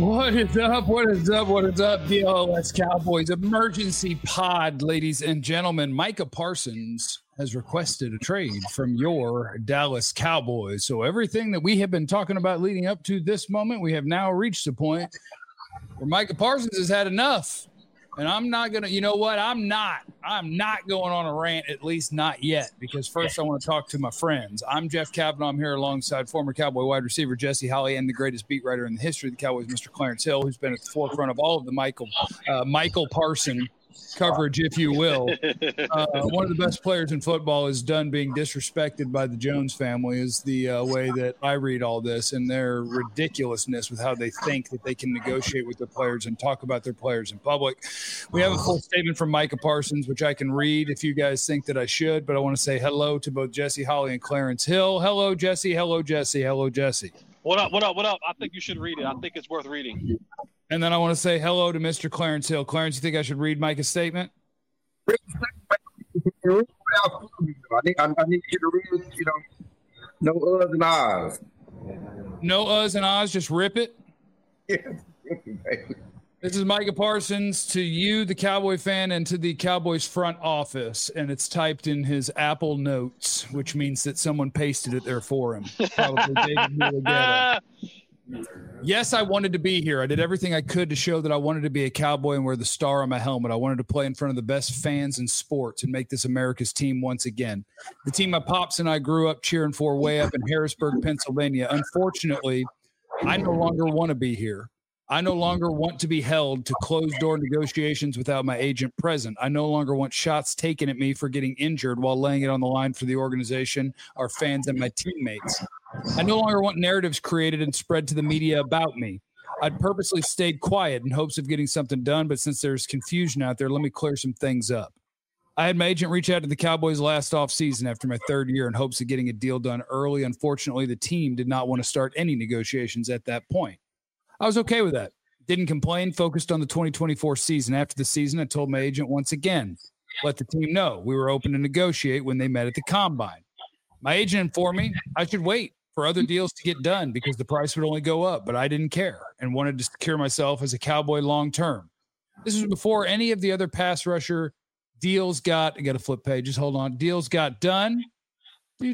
What is up? What is up? What is up? DLS Cowboys emergency pod, ladies and gentlemen. Micah Parsons has requested a trade from your Dallas Cowboys. So everything that we have been talking about leading up to this moment, we have now reached the point where Micah Parsons has had enough. And I'm not going to, you know what? I'm not going on a rant, at least not yet, because first I want to talk to my friends. I'm Jeff Kavanaugh. I'm here alongside former Cowboy wide receiver Jesse Holley and the greatest beat writer in the history of the Cowboys, Mr. Clarence Hill, who's been at the forefront of all of the Michael Parsons coverage, if you will. One of the best players in football is done being disrespected by the Jones family is the way that I read all this and their ridiculousness with how they think that they can negotiate with their players and talk about their players in public. We have a full statement from Micah Parsons, which I can read if you guys think that I should, but I want to say hello to both Jesse Holley and Clarence Hill. Hello, Jesse. Hello, Jesse. Hello, Jesse. What up? What up? What up? I think you should read it. I think it's worth reading. And then I want to say hello to Mr. Clarence Hill. Clarence, you think I should read Micah's statement? I need you to read it, no uhs and ahs. No uhs and ahs, just rip it? Yeah. This is Micah Parsons to you, the Cowboy fan, and to the Cowboys front office, and it's typed in his Apple Notes, which means that someone pasted it there for him. Probably David Mulligetta. Yes, I wanted to be here. I did everything I could to show that I wanted to be a Cowboy and wear the star on my helmet. I wanted to play in front of the best fans in sports and make this America's team once again. The team my pops and I grew up cheering for way up in Harrisburg, Pennsylvania. Unfortunately, I no longer want to be here. I no longer want to be held to closed-door negotiations without my agent present. I no longer want shots taken at me for getting injured while laying it on the line for the organization, our fans, and my teammates. I no longer want narratives created and spread to the media about me. I'd purposely stayed quiet in hopes of getting something done, but since there's confusion out there, let me clear some things up. I had my agent reach out to the Cowboys last offseason after my third year in hopes of getting a deal done early. Unfortunately, the team did not want to start any negotiations at that point. I was okay with that. Didn't complain, focused on the 2024 season. After the season, I told my agent once again, let the team know we were open to negotiate when they met at the Combine. My agent informed me I should wait for other deals to get done because the price would only go up, but I didn't care and wanted to secure myself as a Cowboy long term. This was before any of the other pass rusher deals got, I got to flip pages, hold on, deals got done. This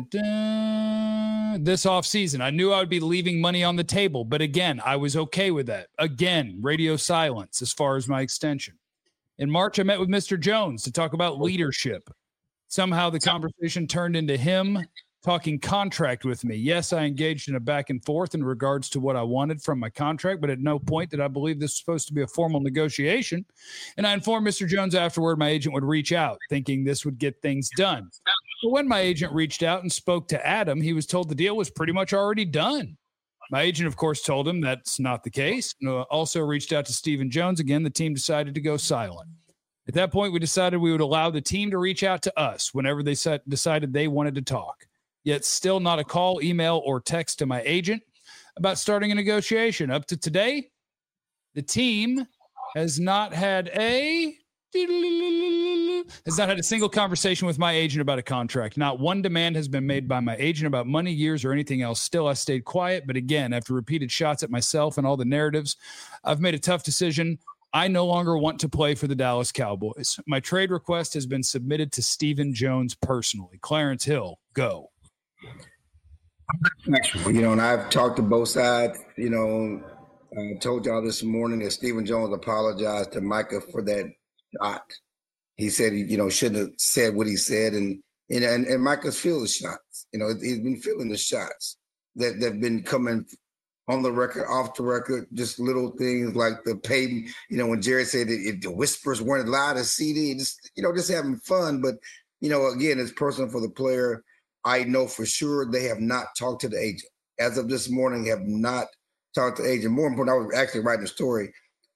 offseason, I knew I would be leaving money on the table, but again, I was okay with that. Again, radio silence as far as my extension. In March, I met with Mr. Jones to talk about leadership. Somehow the conversation turned into him talking contract with me. Yes, I engaged in a back and forth in regards to what I wanted from my contract, but at no point did I believe this was supposed to be a formal negotiation. And I informed Mr. Jones afterward my agent would reach out, thinking this would get things done. But when my agent reached out and spoke to Adam, he was told the deal was pretty much already done. My agent, of course, told him that's not the case. Also reached out to Stephen Jones. Again, the team decided to go silent. At that point, we decided we would allow the team to reach out to us whenever they decided they wanted to talk. Yet still not a call, email, or text to my agent about starting a negotiation. Up to today, the team has not had a single conversation with my agent about a contract. Not one demand has been made by my agent about money, years, or anything else. Still, I stayed quiet. But again, after repeated shots at myself and all the narratives, I've made a tough decision. I no longer want to play for the Dallas Cowboys. My trade request has been submitted to Stephen Jones personally. Clarence Hill, go. And I've talked to both sides. I told y'all this morning that Stephen Jones apologized to Micah for that shot. He said he, shouldn't have said what he said, and Micah's feeling the shots. He's been feeling the shots that have been coming on the record, off the record, just little things like the pay. When Jerry said that if the whispers weren't loud as CD, just having fun. But again, it's personal for the player. I know for sure they have not talked to the agent. As of this morning, have not talked to the agent. More important, I was actually writing a story.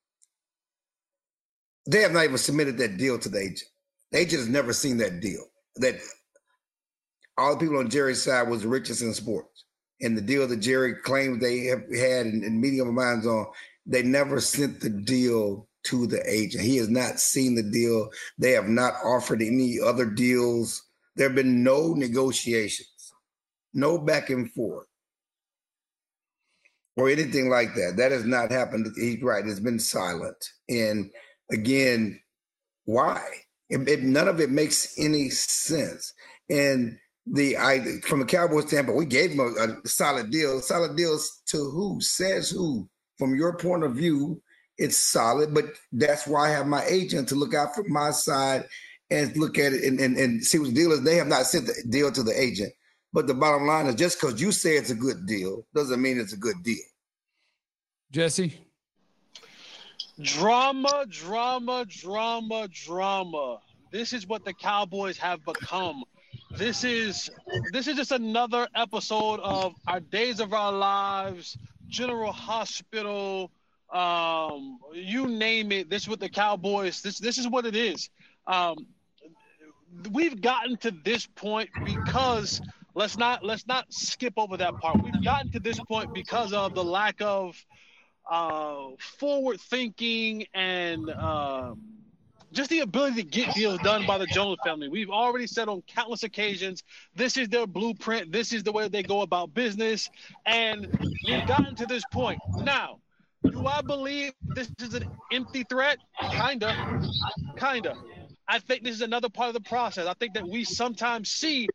They have not even submitted that deal to the agent. The agent has never seen that deal. That all the people on Jerry's side was the richest in sports. And the deal that Jerry claimed they have had in meeting of minds on, they never sent the deal to the agent. He has not seen the deal. They have not offered any other deals. There have been no negotiations, no back and forth. or anything like that. That has not happened. He's right. It's been silent. And again, why? None of it makes any sense. And from a Cowboys standpoint, we gave him a solid deal. Solid deals to who? Says who? From your point of view, it's solid, but that's why I have my agent to look out for my side and look at it and see what the deal is. They have not sent the deal to the agent. But the bottom line is, just because you say it's a good deal doesn't mean it's a good deal. Jesse? Drama. This is what the Cowboys have become. This is just another episode of our Days of Our Lives, General Hospital, you name it. This is what the Cowboys, this is what it is. We've gotten to this point because let's not skip over that part. We've gotten to this point because of the lack of forward thinking and just the ability to get deals done by the Jones family. We've already said on countless occasions, this is their blueprint. This is the way they go about business. And we've gotten to this point. Now, do I believe this is an empty threat? Kinda. I think this is another part of the process. I think that we sometimes see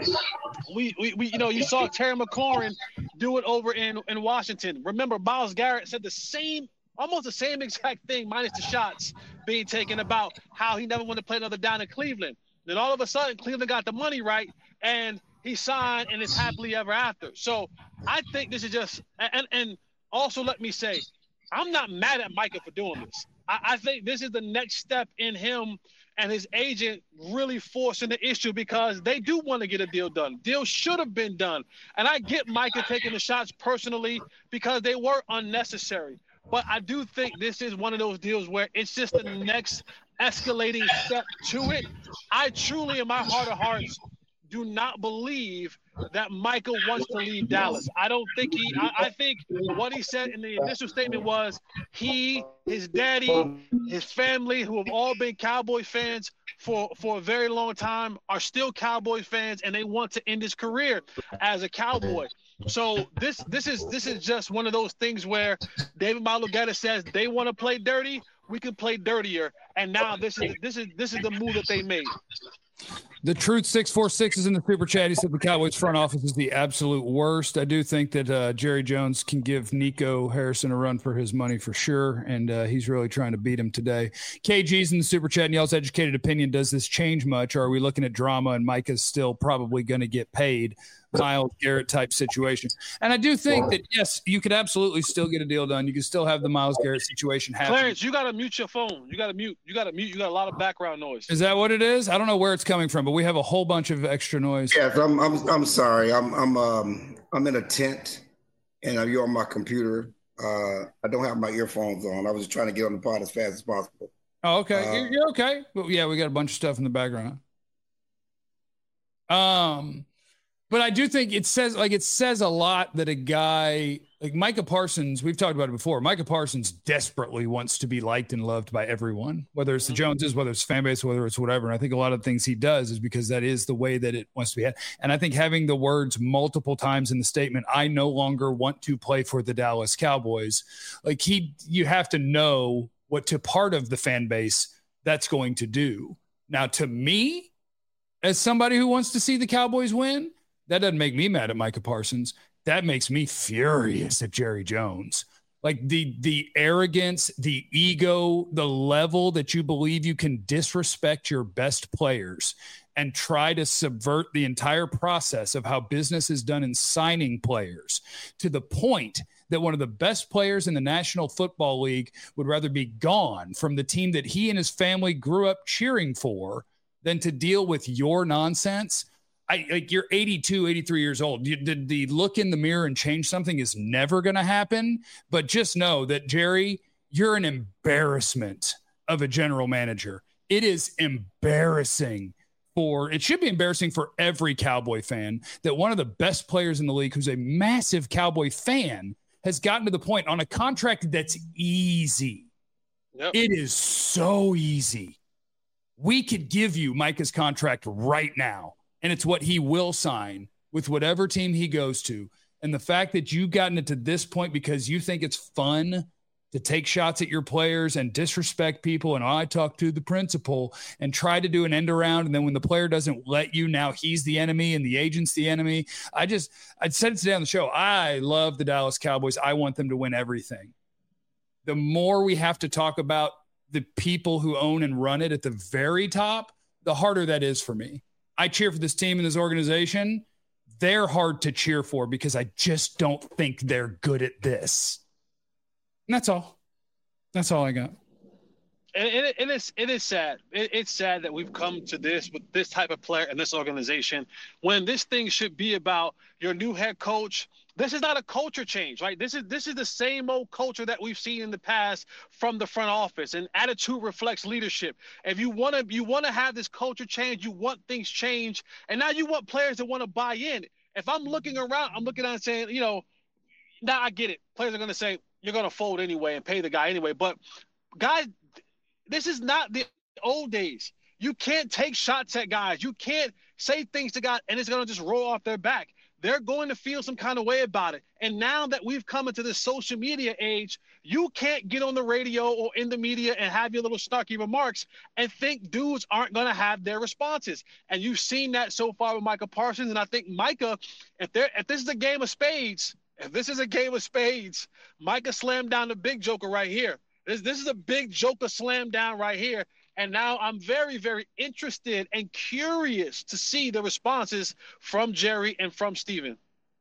you saw Terry McLaurin do it over in Washington. Remember, Myles Garrett said almost the same exact thing, minus the shots being taken, about how he never wanted to play another down in Cleveland. Then all of a sudden, Cleveland got the money right, and he signed, and it's happily ever after. So I think this is just – and also let me say, I'm not mad at Micah for doing this. I think this is the next step in him and his agent really forcing the issue, because they do want to get a deal done. Deal should have been done. And I get Micah taking the shots personally because they were unnecessary. But I do think this is one of those deals where it's just the next escalating step to it. I truly, in my heart of hearts, do not believe that Michael wants to leave Dallas. I don't think I think what he said in the initial statement was his daddy, his family, who have all been Cowboy fans for a very long time, are still Cowboy fans, and they want to end his career as a Cowboy. So this is just one of those things where David Malugatta says they want to play dirty, we can play dirtier, and now this is the move that they made. The Truth 646 is in the super chat. He said the Cowboys front office is the absolute worst. I do think that Jerry Jones can give Nico Harrison a run for his money for sure, and he's really trying to beat him today. KG's in the super chat, and y'all's educated opinion, does this change much? Or are we looking at drama and Micah's still probably going to get paid? Myles Garrett type situation. And I do think that, yes, you could absolutely still get a deal done. You can still have the Myles Garrett situation happen. Clarence, you got to mute your phone. You got to mute. You got a lot of background noise. Is that what it is? I don't know where it's coming from, but we have a whole bunch of extra noise. Yes, I'm sorry. I'm in a tent and you're on my computer. I don't have my earphones on. I was just trying to get on the pod as fast as possible. Oh, okay. You're okay. Well, yeah, we got a bunch of stuff in the background. But I do think it says a lot that a guy like Micah Parsons, we've talked about it before. Micah Parsons desperately wants to be liked and loved by everyone, whether it's the Joneses, whether it's fan base, whether it's whatever. And I think a lot of things he does is because that is the way that it wants to be had. And I think having the words multiple times in the statement, I no longer want to play for the Dallas Cowboys. Like you have to know what to part of the fan base that's going to do. Now, to me, as somebody who wants to see the Cowboys win, that doesn't make me mad at Micah Parsons. That makes me furious at Jerry Jones. Like the arrogance, the ego, the level that you believe you can disrespect your best players and try to subvert the entire process of how business is done in signing players, to the point that one of the best players in the National Football League would rather be gone from the team that he and his family grew up cheering for than to deal with your nonsense. You're 82, 83 years old. The look in the mirror and change something is never going to happen. But just know that, Jerry, you're an embarrassment of a general manager. It is embarrassing it should be embarrassing for every Cowboy fan that one of the best players in the league, who's a massive Cowboy fan, has gotten to the point on a contract that's easy. Yep. It is so easy. We could give you Micah's contract right now, and it's what he will sign with whatever team he goes to. And the fact that you've gotten it to this point because you think it's fun to take shots at your players and disrespect people. And I talk to the principal and try to do an end around. And then when the player doesn't let you, now he's the enemy and the agent's the enemy. I said it today on the show. I love the Dallas Cowboys. I want them to win everything. The more we have to talk about the people who own and run it at the very top, the harder that is for me. I cheer for this team and this organization. They're hard to cheer for because I just don't think they're good at this. And that's all. That's all I got. And it is sad. It's sad that we've come to this with this type of player in this organization when this thing should be about your new head coach. This is not a culture change, right? This is the same old culture that we've seen in the past from the front office. And attitude reflects leadership. If you want to have this culture change, you want things change, and now you want players that want to buy in. If I'm looking around, I'm looking at it saying, now I get it. Players are going to say, you're going to fold anyway and pay the guy anyway. But, guys, this is not the old days. You can't take shots at guys. You can't say things to guys, and it's going to just roll off their back. They're going to feel some kind of way about it. And now that we've come into this social media age, you can't get on the radio or in the media and have your little snarky remarks and think dudes aren't going to have their responses. And you've seen that so far with Micah Parsons. And I think Micah, if this is a game of spades, Micah slammed down the big joker right here. This is a big joker slam down right here. And now I'm very, very interested and curious to see the responses from Jerry and from Steven.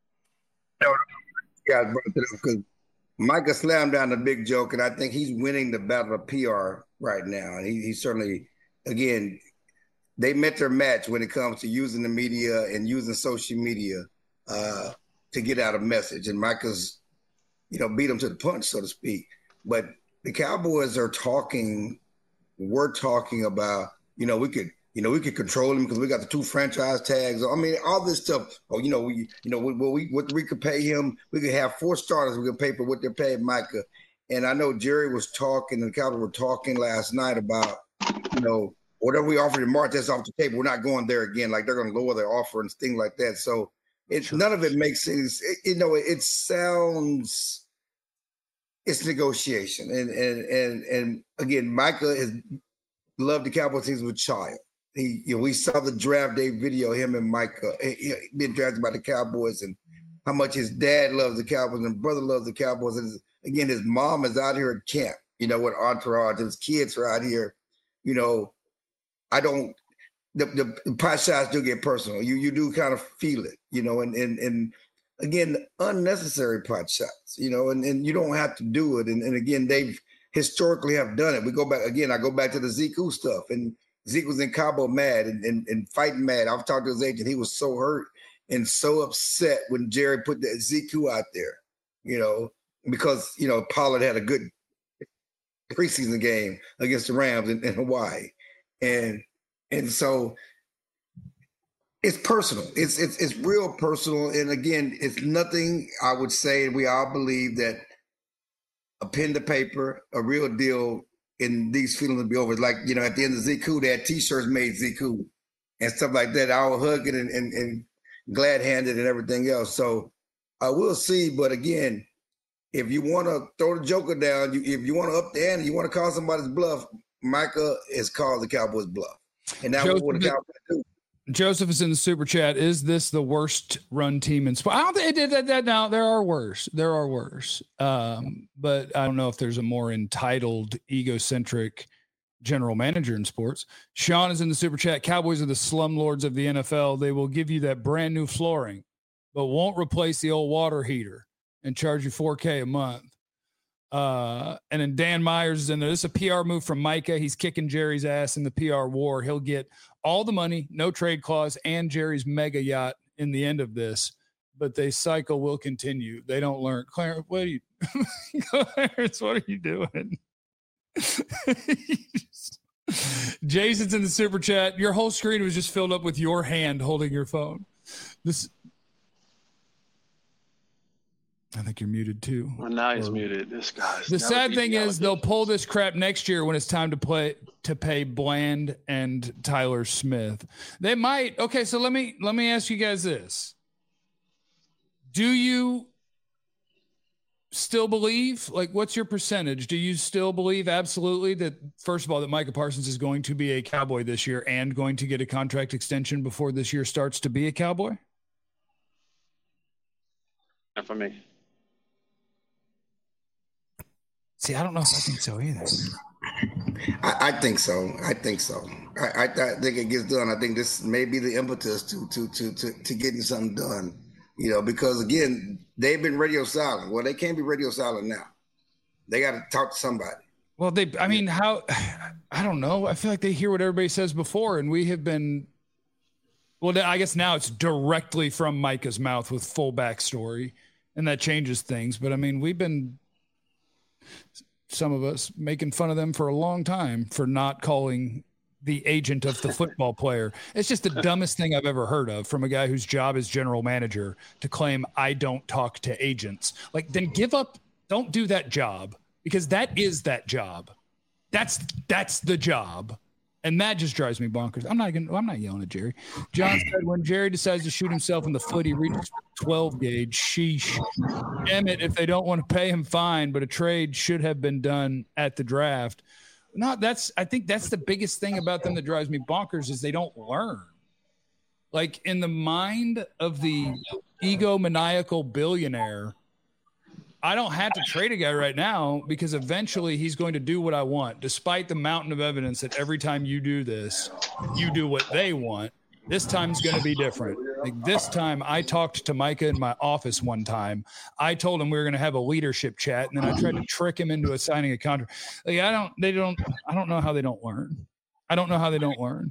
Yeah, because Micah slammed down the big joke, and I think he's winning the battle of PR right now. And he certainly, again, they met their match when it comes to using the media and using social media to get out a message. And Micah's, beat him to the punch, so to speak. But the Cowboys are talking. We're talking about, we could control him because we got the 2 franchise tags. I mean, all this stuff. Oh, we could pay him. We could have 4 starters. We could pay for what they're paying Micah. And I know Jerry was talking, and the Cowboys were talking last night about, whatever we offered in March, that's off the table. We're not going there again. Like they're going to lower their offer and things like that. So none of it makes sense. It sounds. It's negotiation. And again, Micah has loved the Cowboys since he was a child. We saw the draft day video, him and Micah being drafted by the Cowboys, and how much his dad loves the Cowboys and brother loves the Cowboys. And again, his mom is out here at camp, with entourage. His kids are out here. The pot shots do get personal. You do kind of feel it, and again, unnecessary pot shots, and you don't have to do it. And again, they've historically have done it. We go back again. I go back to the Zeku stuff, and Zeke was in Cabo mad and fighting mad. I've talked to his agent. He was so hurt and so upset when Jerry put that Zeku out there, because Pollard had a good preseason game against the Rams in Hawaii, and so. It's personal. It's real personal. And again, it's nothing, I would say, we all believe that a pen to paper, a real deal, and these feelings will be over. Like, at the end of Zeku, they had T-shirts made Zeku and stuff like that, all hugging and glad-handed and everything else. So we'll see. But again, if you want to throw the joker down, if you want to up the ante, you want to call somebody's bluff, Micah has called the Cowboys' bluff. And now what the Cowboys do. Joseph is in the super chat. Is this the worst run team in sports? I don't think it did that. Now there are worse. But I don't know if there's a more entitled, egocentric general manager in sports. Sean is in the super chat. Cowboys are the slumlords of the NFL. They will give you that brand new flooring, but won't replace the old water heater and charge you $4,000 a month. And then Dan Myers is in there. This is a PR move from Micah. He's kicking Jerry's ass in the PR war. He'll get all the money, no trade clause, and Jerry's mega yacht in the end of this. But the cycle will continue. They don't learn. Clarence, what are you doing? Jason's in the super chat. Your whole screen was just filled up with your hand holding your phone. I think you're muted too. Well, now he's muted. This guy's. The sad thing is they'll pull this crap next year when it's time to pay Bland and Tyler Smith. They might. Okay, so let me ask you guys this: Do you still believe, like, what's your percentage? Do you still believe absolutely that, first of all, that Micah Parsons is going to be a Cowboy this year and going to get a contract extension before this year starts to be a Cowboy? Not for me. See, I don't know if I think so either. I think so. I think it gets done. I think this may be the impetus to getting something done. You know, because again, they've been radio silent. Well, they can't be radio silent now. They got to talk to somebody. Well, I don't know. I feel like they hear what everybody says before, and we have been. Well, I guess now it's directly from Micah's mouth with full backstory, and that changes things. But I mean, we've been, some of us, making fun of them for a long time for not calling the agent of the football player. It's just the dumbest thing I've ever heard of from a guy whose job is general manager to claim I don't talk to agents. Like, then give up. Don't do that job, because that is that job. That's the job. And that just drives me bonkers. I'm not yelling at Jerry. John said when Jerry decides to shoot himself in the foot, he reaches 12 gauge. Sheesh. Damn it. If they don't want to pay him, fine, but a trade should have been done at the draft. No, I think that's the biggest thing about them that drives me bonkers is they don't learn. Like, in the mind of the egomaniacal billionaire, I don't have to trade a guy right now because eventually he's going to do what I want, despite the mountain of evidence that every time you do this, you do what they want. This time's going to be different. Like, this time I talked to Micah in my office one time. I told him we were going to have a leadership chat, and then I tried to trick him into signing a contract. Like, I don't know how they don't learn. I don't know how they don't learn.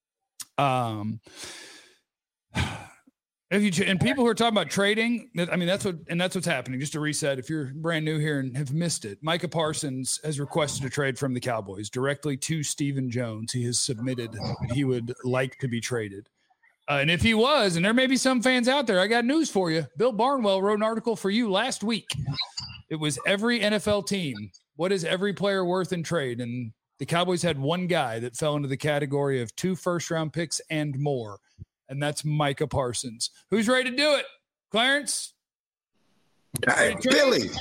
And people who are talking about trading, I mean, that's what's happening. Just to reset, if you're brand new here and have missed it, Micah Parsons has requested a trade from the Cowboys directly to Stephen Jones. He has submitted that he would like to be traded. And if he was, and there may be some fans out there, I got news for you. Bill Barnwell wrote an article for you last week. It was every NFL team. What is every player worth in trade? And the Cowboys had one guy that fell into the category of 2 first-round picks and more. And that's Micah Parsons. Who's ready to do it? Clarence? Billy.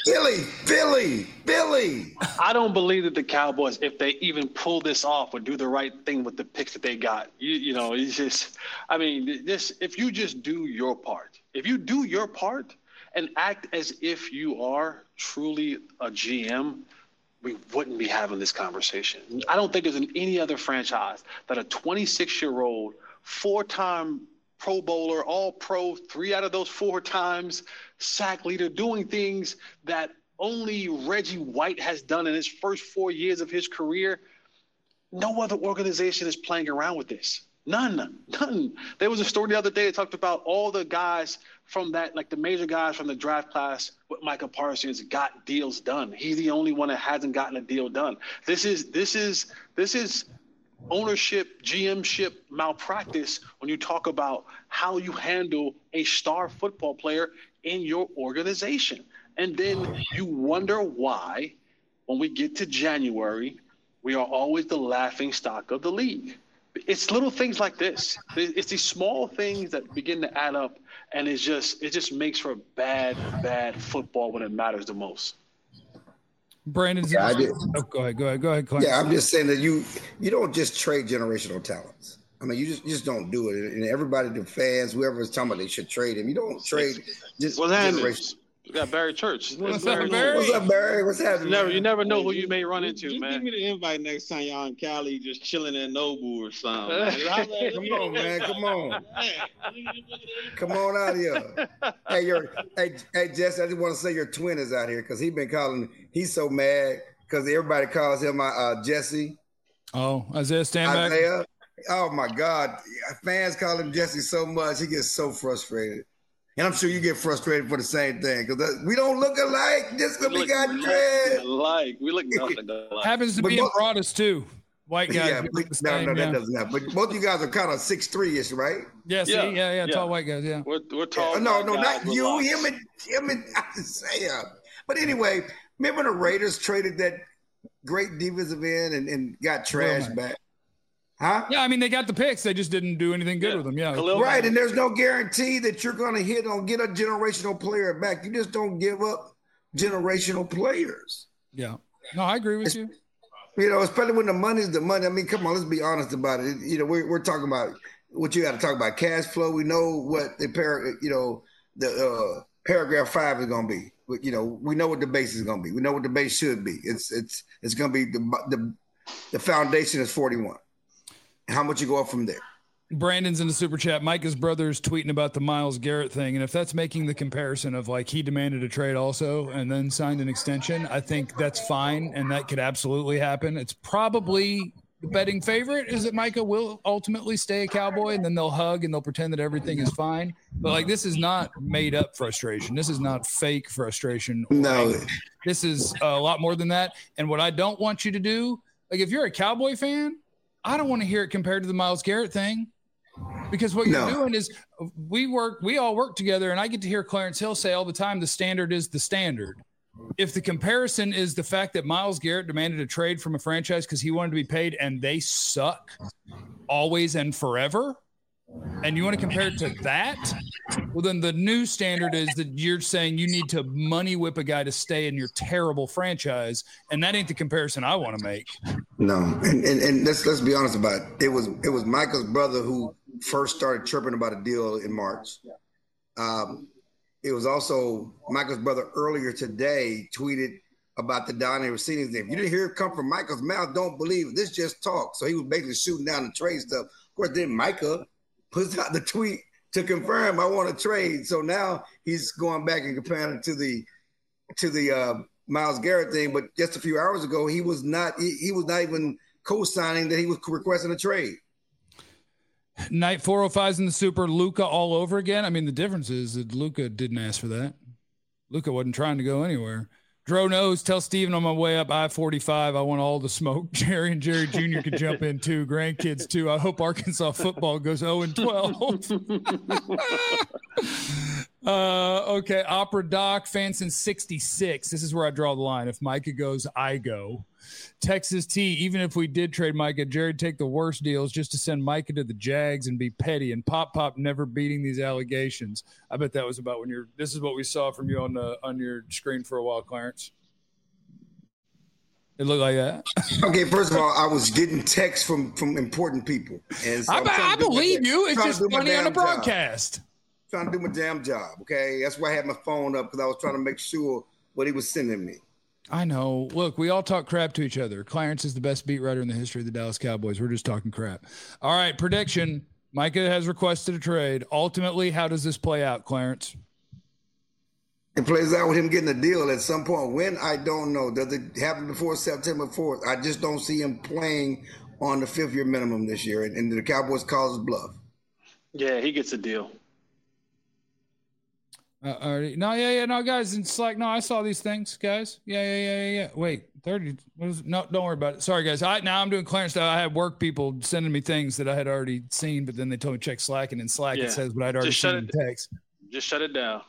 I don't believe that the Cowboys, if they even pull this off, would do the right thing with the picks that they got. You know, it's just, I mean, this. If you just do your part, if you do your part and act as if you are truly a GM, we wouldn't be having this conversation. I don't think there's any other franchise that a 26-year-old 4-time Pro Bowler, all pro, 3 out of those 4 times, sack leader, doing things that only Reggie White has done in his first 4 years of his career. No other organization is playing around with this. None. There was a story the other day that talked about all the guys from that, like the major guys from the draft class with Micah Parsons got deals done. He's the only one that hasn't gotten a deal done. This is ownership, GMship malpractice when you talk about how you handle a star football player in your organization. And then you wonder why, when we get to January, we are always the laughing stock of the league. It's little things like this. It's these small things that begin to add up, and it just makes for bad football when it matters the most. Brandon, go ahead, Clarence. Yeah, I'm just saying that you don't just trade generational talents. I mean, you just don't do it. And everybody, the fans, whoever is talking about they should trade him. You don't trade just generational. We got Barry Church. What's up, Barry? What's happening? You never know who you may run into, just man. Give me the invite next time y'all in Cali, just chilling at Nobu or something. Come on, man. Come on out here. Hey, Jesse, I just want to say your twin is out here because he's so mad because everybody calls him Jesse. Oh, Isaiah Stanback. Isaiah. Oh my God. Fans call him Jesse so much, he gets so frustrated. And I'm sure you get frustrated for the same thing because we don't look alike just because we got dread. We look nothing alike. Happens to be in Broadus too. White guys. Yeah, no, that doesn't happen. But both of you guys are kind of 6'3"-ish, right? Yeah, yeah, tall white guys. Yeah, we're tall. No, not you. Him and Isaiah. But anyway, remember the Raiders traded that great defensive end and got trashed back. Huh? Yeah, I mean, they got the picks. They just didn't do anything good with them. Yeah. Right, and there's no guarantee that you're going to get a generational player back. You just don't give up generational players. Yeah. No, I agree with you. You know, especially when the money's the money. I mean, come on, let's be honest about it. You know, we're talking about what you got to talk about, cash flow. We know what the paragraph 5 is going to be. You know, we know what the base is going to be. We know what the base should be. It's going to be the foundation is 41. How much you go up from there? Brandon's in the super chat. Micah's brother's tweeting about the Myles Garrett thing. And if that's making the comparison of like he demanded a trade also and then signed an extension, I think that's fine. And that could absolutely happen. It's probably the betting favorite is that Micah will ultimately stay a Cowboy and then they'll hug and they'll pretend that everything is fine. But like, this is not made up frustration. This is not fake frustration. No, this is a lot more than that. And what I don't want you to do, like if you're a Cowboy fan, I don't want to hear it compared to the Myles Garrett thing. Because what you're doing is we all work together, and I get to hear Clarence Hill say all the time, the standard is the standard. If the comparison is the fact that Myles Garrett demanded a trade from a franchise because he wanted to be paid and they suck always and forever, and you want to compare it to that, well, then the new standard is that you're saying you need to money whip a guy to stay in your terrible franchise, and that ain't the comparison I want to make. No, and let's be honest about it. It was Michael's brother who first started chirping about a deal in March. It was also Michael's brother earlier today tweeted about the Donnie Rossini thing. If you didn't hear it come from Michael's mouth, don't believe it. This just talk. So he was basically shooting down the trade stuff. Of course, then Micah puts out the tweet to confirm I want to trade. So now he's going back and comparing it to the Myles Garrett thing. But just a few hours ago, he was not even co-signing that he was requesting a trade. Night 405's in the super. Luka all over again. I mean, the difference is that Luka didn't ask for that. Luka wasn't trying to go anywhere. Dro knows. Tell Steven on my way up I-45. I want all the smoke. Jerry and Jerry Jr. could jump in too. Grandkids too. I hope Arkansas football goes 0-12. Okay. Opera Doc, Fanson 66. This is where I draw the line. If Micah goes, I go. Texas T, even if we did trade Micah, Jared take the worst deals just to send Micah to the Jags and be petty and Pop never beating these allegations. I bet that was about when this is what we saw from you on your screen for a while, Clarence. It looked like that. Okay, first of all, I was getting texts from important people. And so I believe you. It's just funny on the broadcast. Trying to do my damn job, okay? That's why I had my phone up because I was trying to make sure what he was sending me. I know. Look, we all talk crap to each other. Clarence is the best beat writer in the history of the Dallas Cowboys. We're just talking crap. All right, prediction. Micah has requested a trade. Ultimately, how does this play out, Clarence? It plays out with him getting a deal at some point. When, I don't know. Does it happen before September 4th? I just don't see him playing on the 5th-year minimum this year, and the Cowboys calls his bluff. Yeah, he gets a deal. No, guys, in Slack. No, I saw these things, guys. Yeah. Wait, 30. No, don't worry about it. Sorry, guys. Now I'm doing Clarence style. I had work people sending me things that I had already seen, but then they told me check Slack, and in Slack it says what I'd already seen in text. Just shut it down.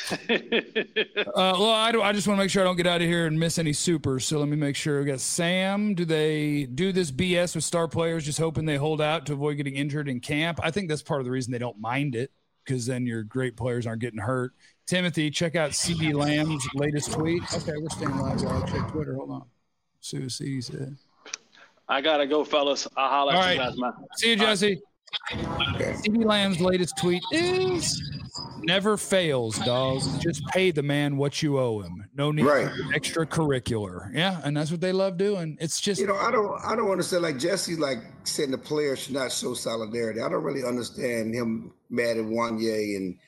Well, I just want to make sure I don't get out of here and miss any supers. So let me make sure. We got Sam. Do they do this BS with star players, just hoping they hold out to avoid getting injured in camp? I think that's part of the reason they don't mind it, because then your great players aren't getting hurt. Timothy, check out CeeDee Lamb's latest tweet. Okay, we're staying live while I check Twitter. Hold on. See what CeeDee said. I got to go, fellas. I'll holler at you guys, man. See you, Jesse. CeeDee Lamb's latest tweet is never fails, dog. Just pay the man what you owe him. No need for extracurricular. Yeah, and that's what they love doing. It's just, I don't understand. Like Jesse, like saying the players should not show solidarity. I don't really understand him mad at Wanye and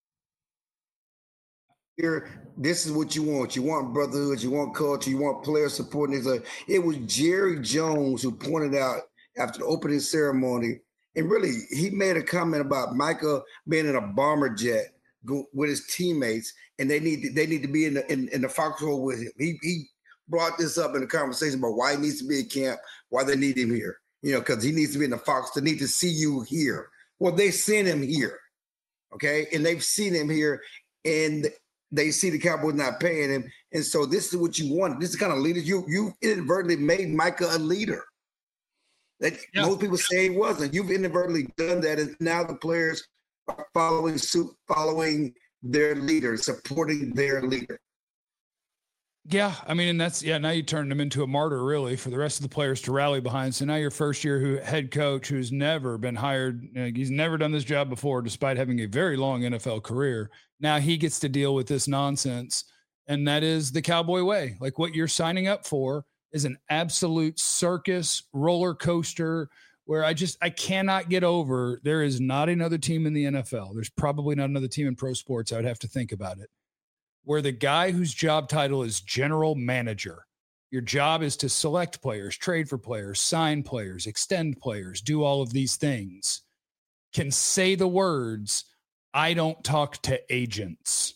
here. This is what you want. You want brotherhood. You want culture. You want player support. It was Jerry Jones who pointed out after the opening ceremony. And really, he made a comment about Micah being in a bomber jet with his teammates, and they need to be in the foxhole with him. He brought this up in the conversation about why he needs to be in camp, why they need him here. Because he needs to be in the fox. They need to see you here. Well, they sent him here, okay, and they've seen him here, and they see the Cowboys not paying him, and so this is what you want. This is the kind of leader you inadvertently made Micah a leader. Most people say he wasn't. You've inadvertently done that, and now the players are following suit, following their leader, supporting their leader. Yeah, I mean, and that's now you turned him into a martyr, really, for the rest of the players to rally behind. So now your first year head coach who's never been hired, he's never done this job before, despite having a very long NFL career. Now he gets to deal with this nonsense, and that is the Cowboy way. Like, what you're signing up for is an absolute circus roller coaster where I cannot get over. There is not another team in the NFL. There's probably not another team in pro sports. I would have to think about it, where the guy whose job title is general manager, your job is to select players, trade for players, sign players, extend players, do all of these things, can say the words, "I don't talk to agents."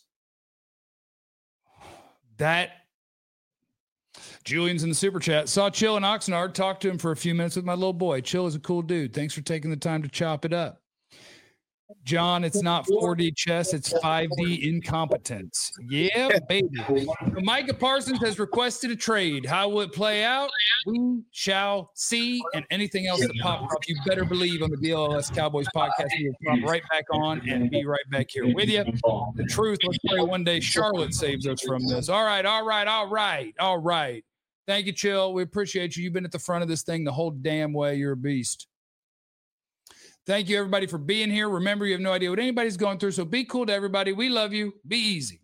That Julian's in the super chat. Saw Chill in Oxnard. Talked to him for a few minutes with my little boy. Chill is a cool dude. Thanks for taking the time to chop it up. John, it's not 4D chess, it's 5D incompetence. Yeah, baby. So Micah Parsons has requested a trade. How will it play out? We shall see. And anything else that pops up, you better believe on the BLS Cowboys podcast, we will pop right back on and be right back here with you. The truth, let's pray one day Charlotte saves us from this. All right. Thank you, Chill. We appreciate you. You've been at the front of this thing the whole damn way. You're a beast. Thank you, everybody, for being here. Remember, you have no idea what anybody's going through, so be cool to everybody. We love you. Be easy.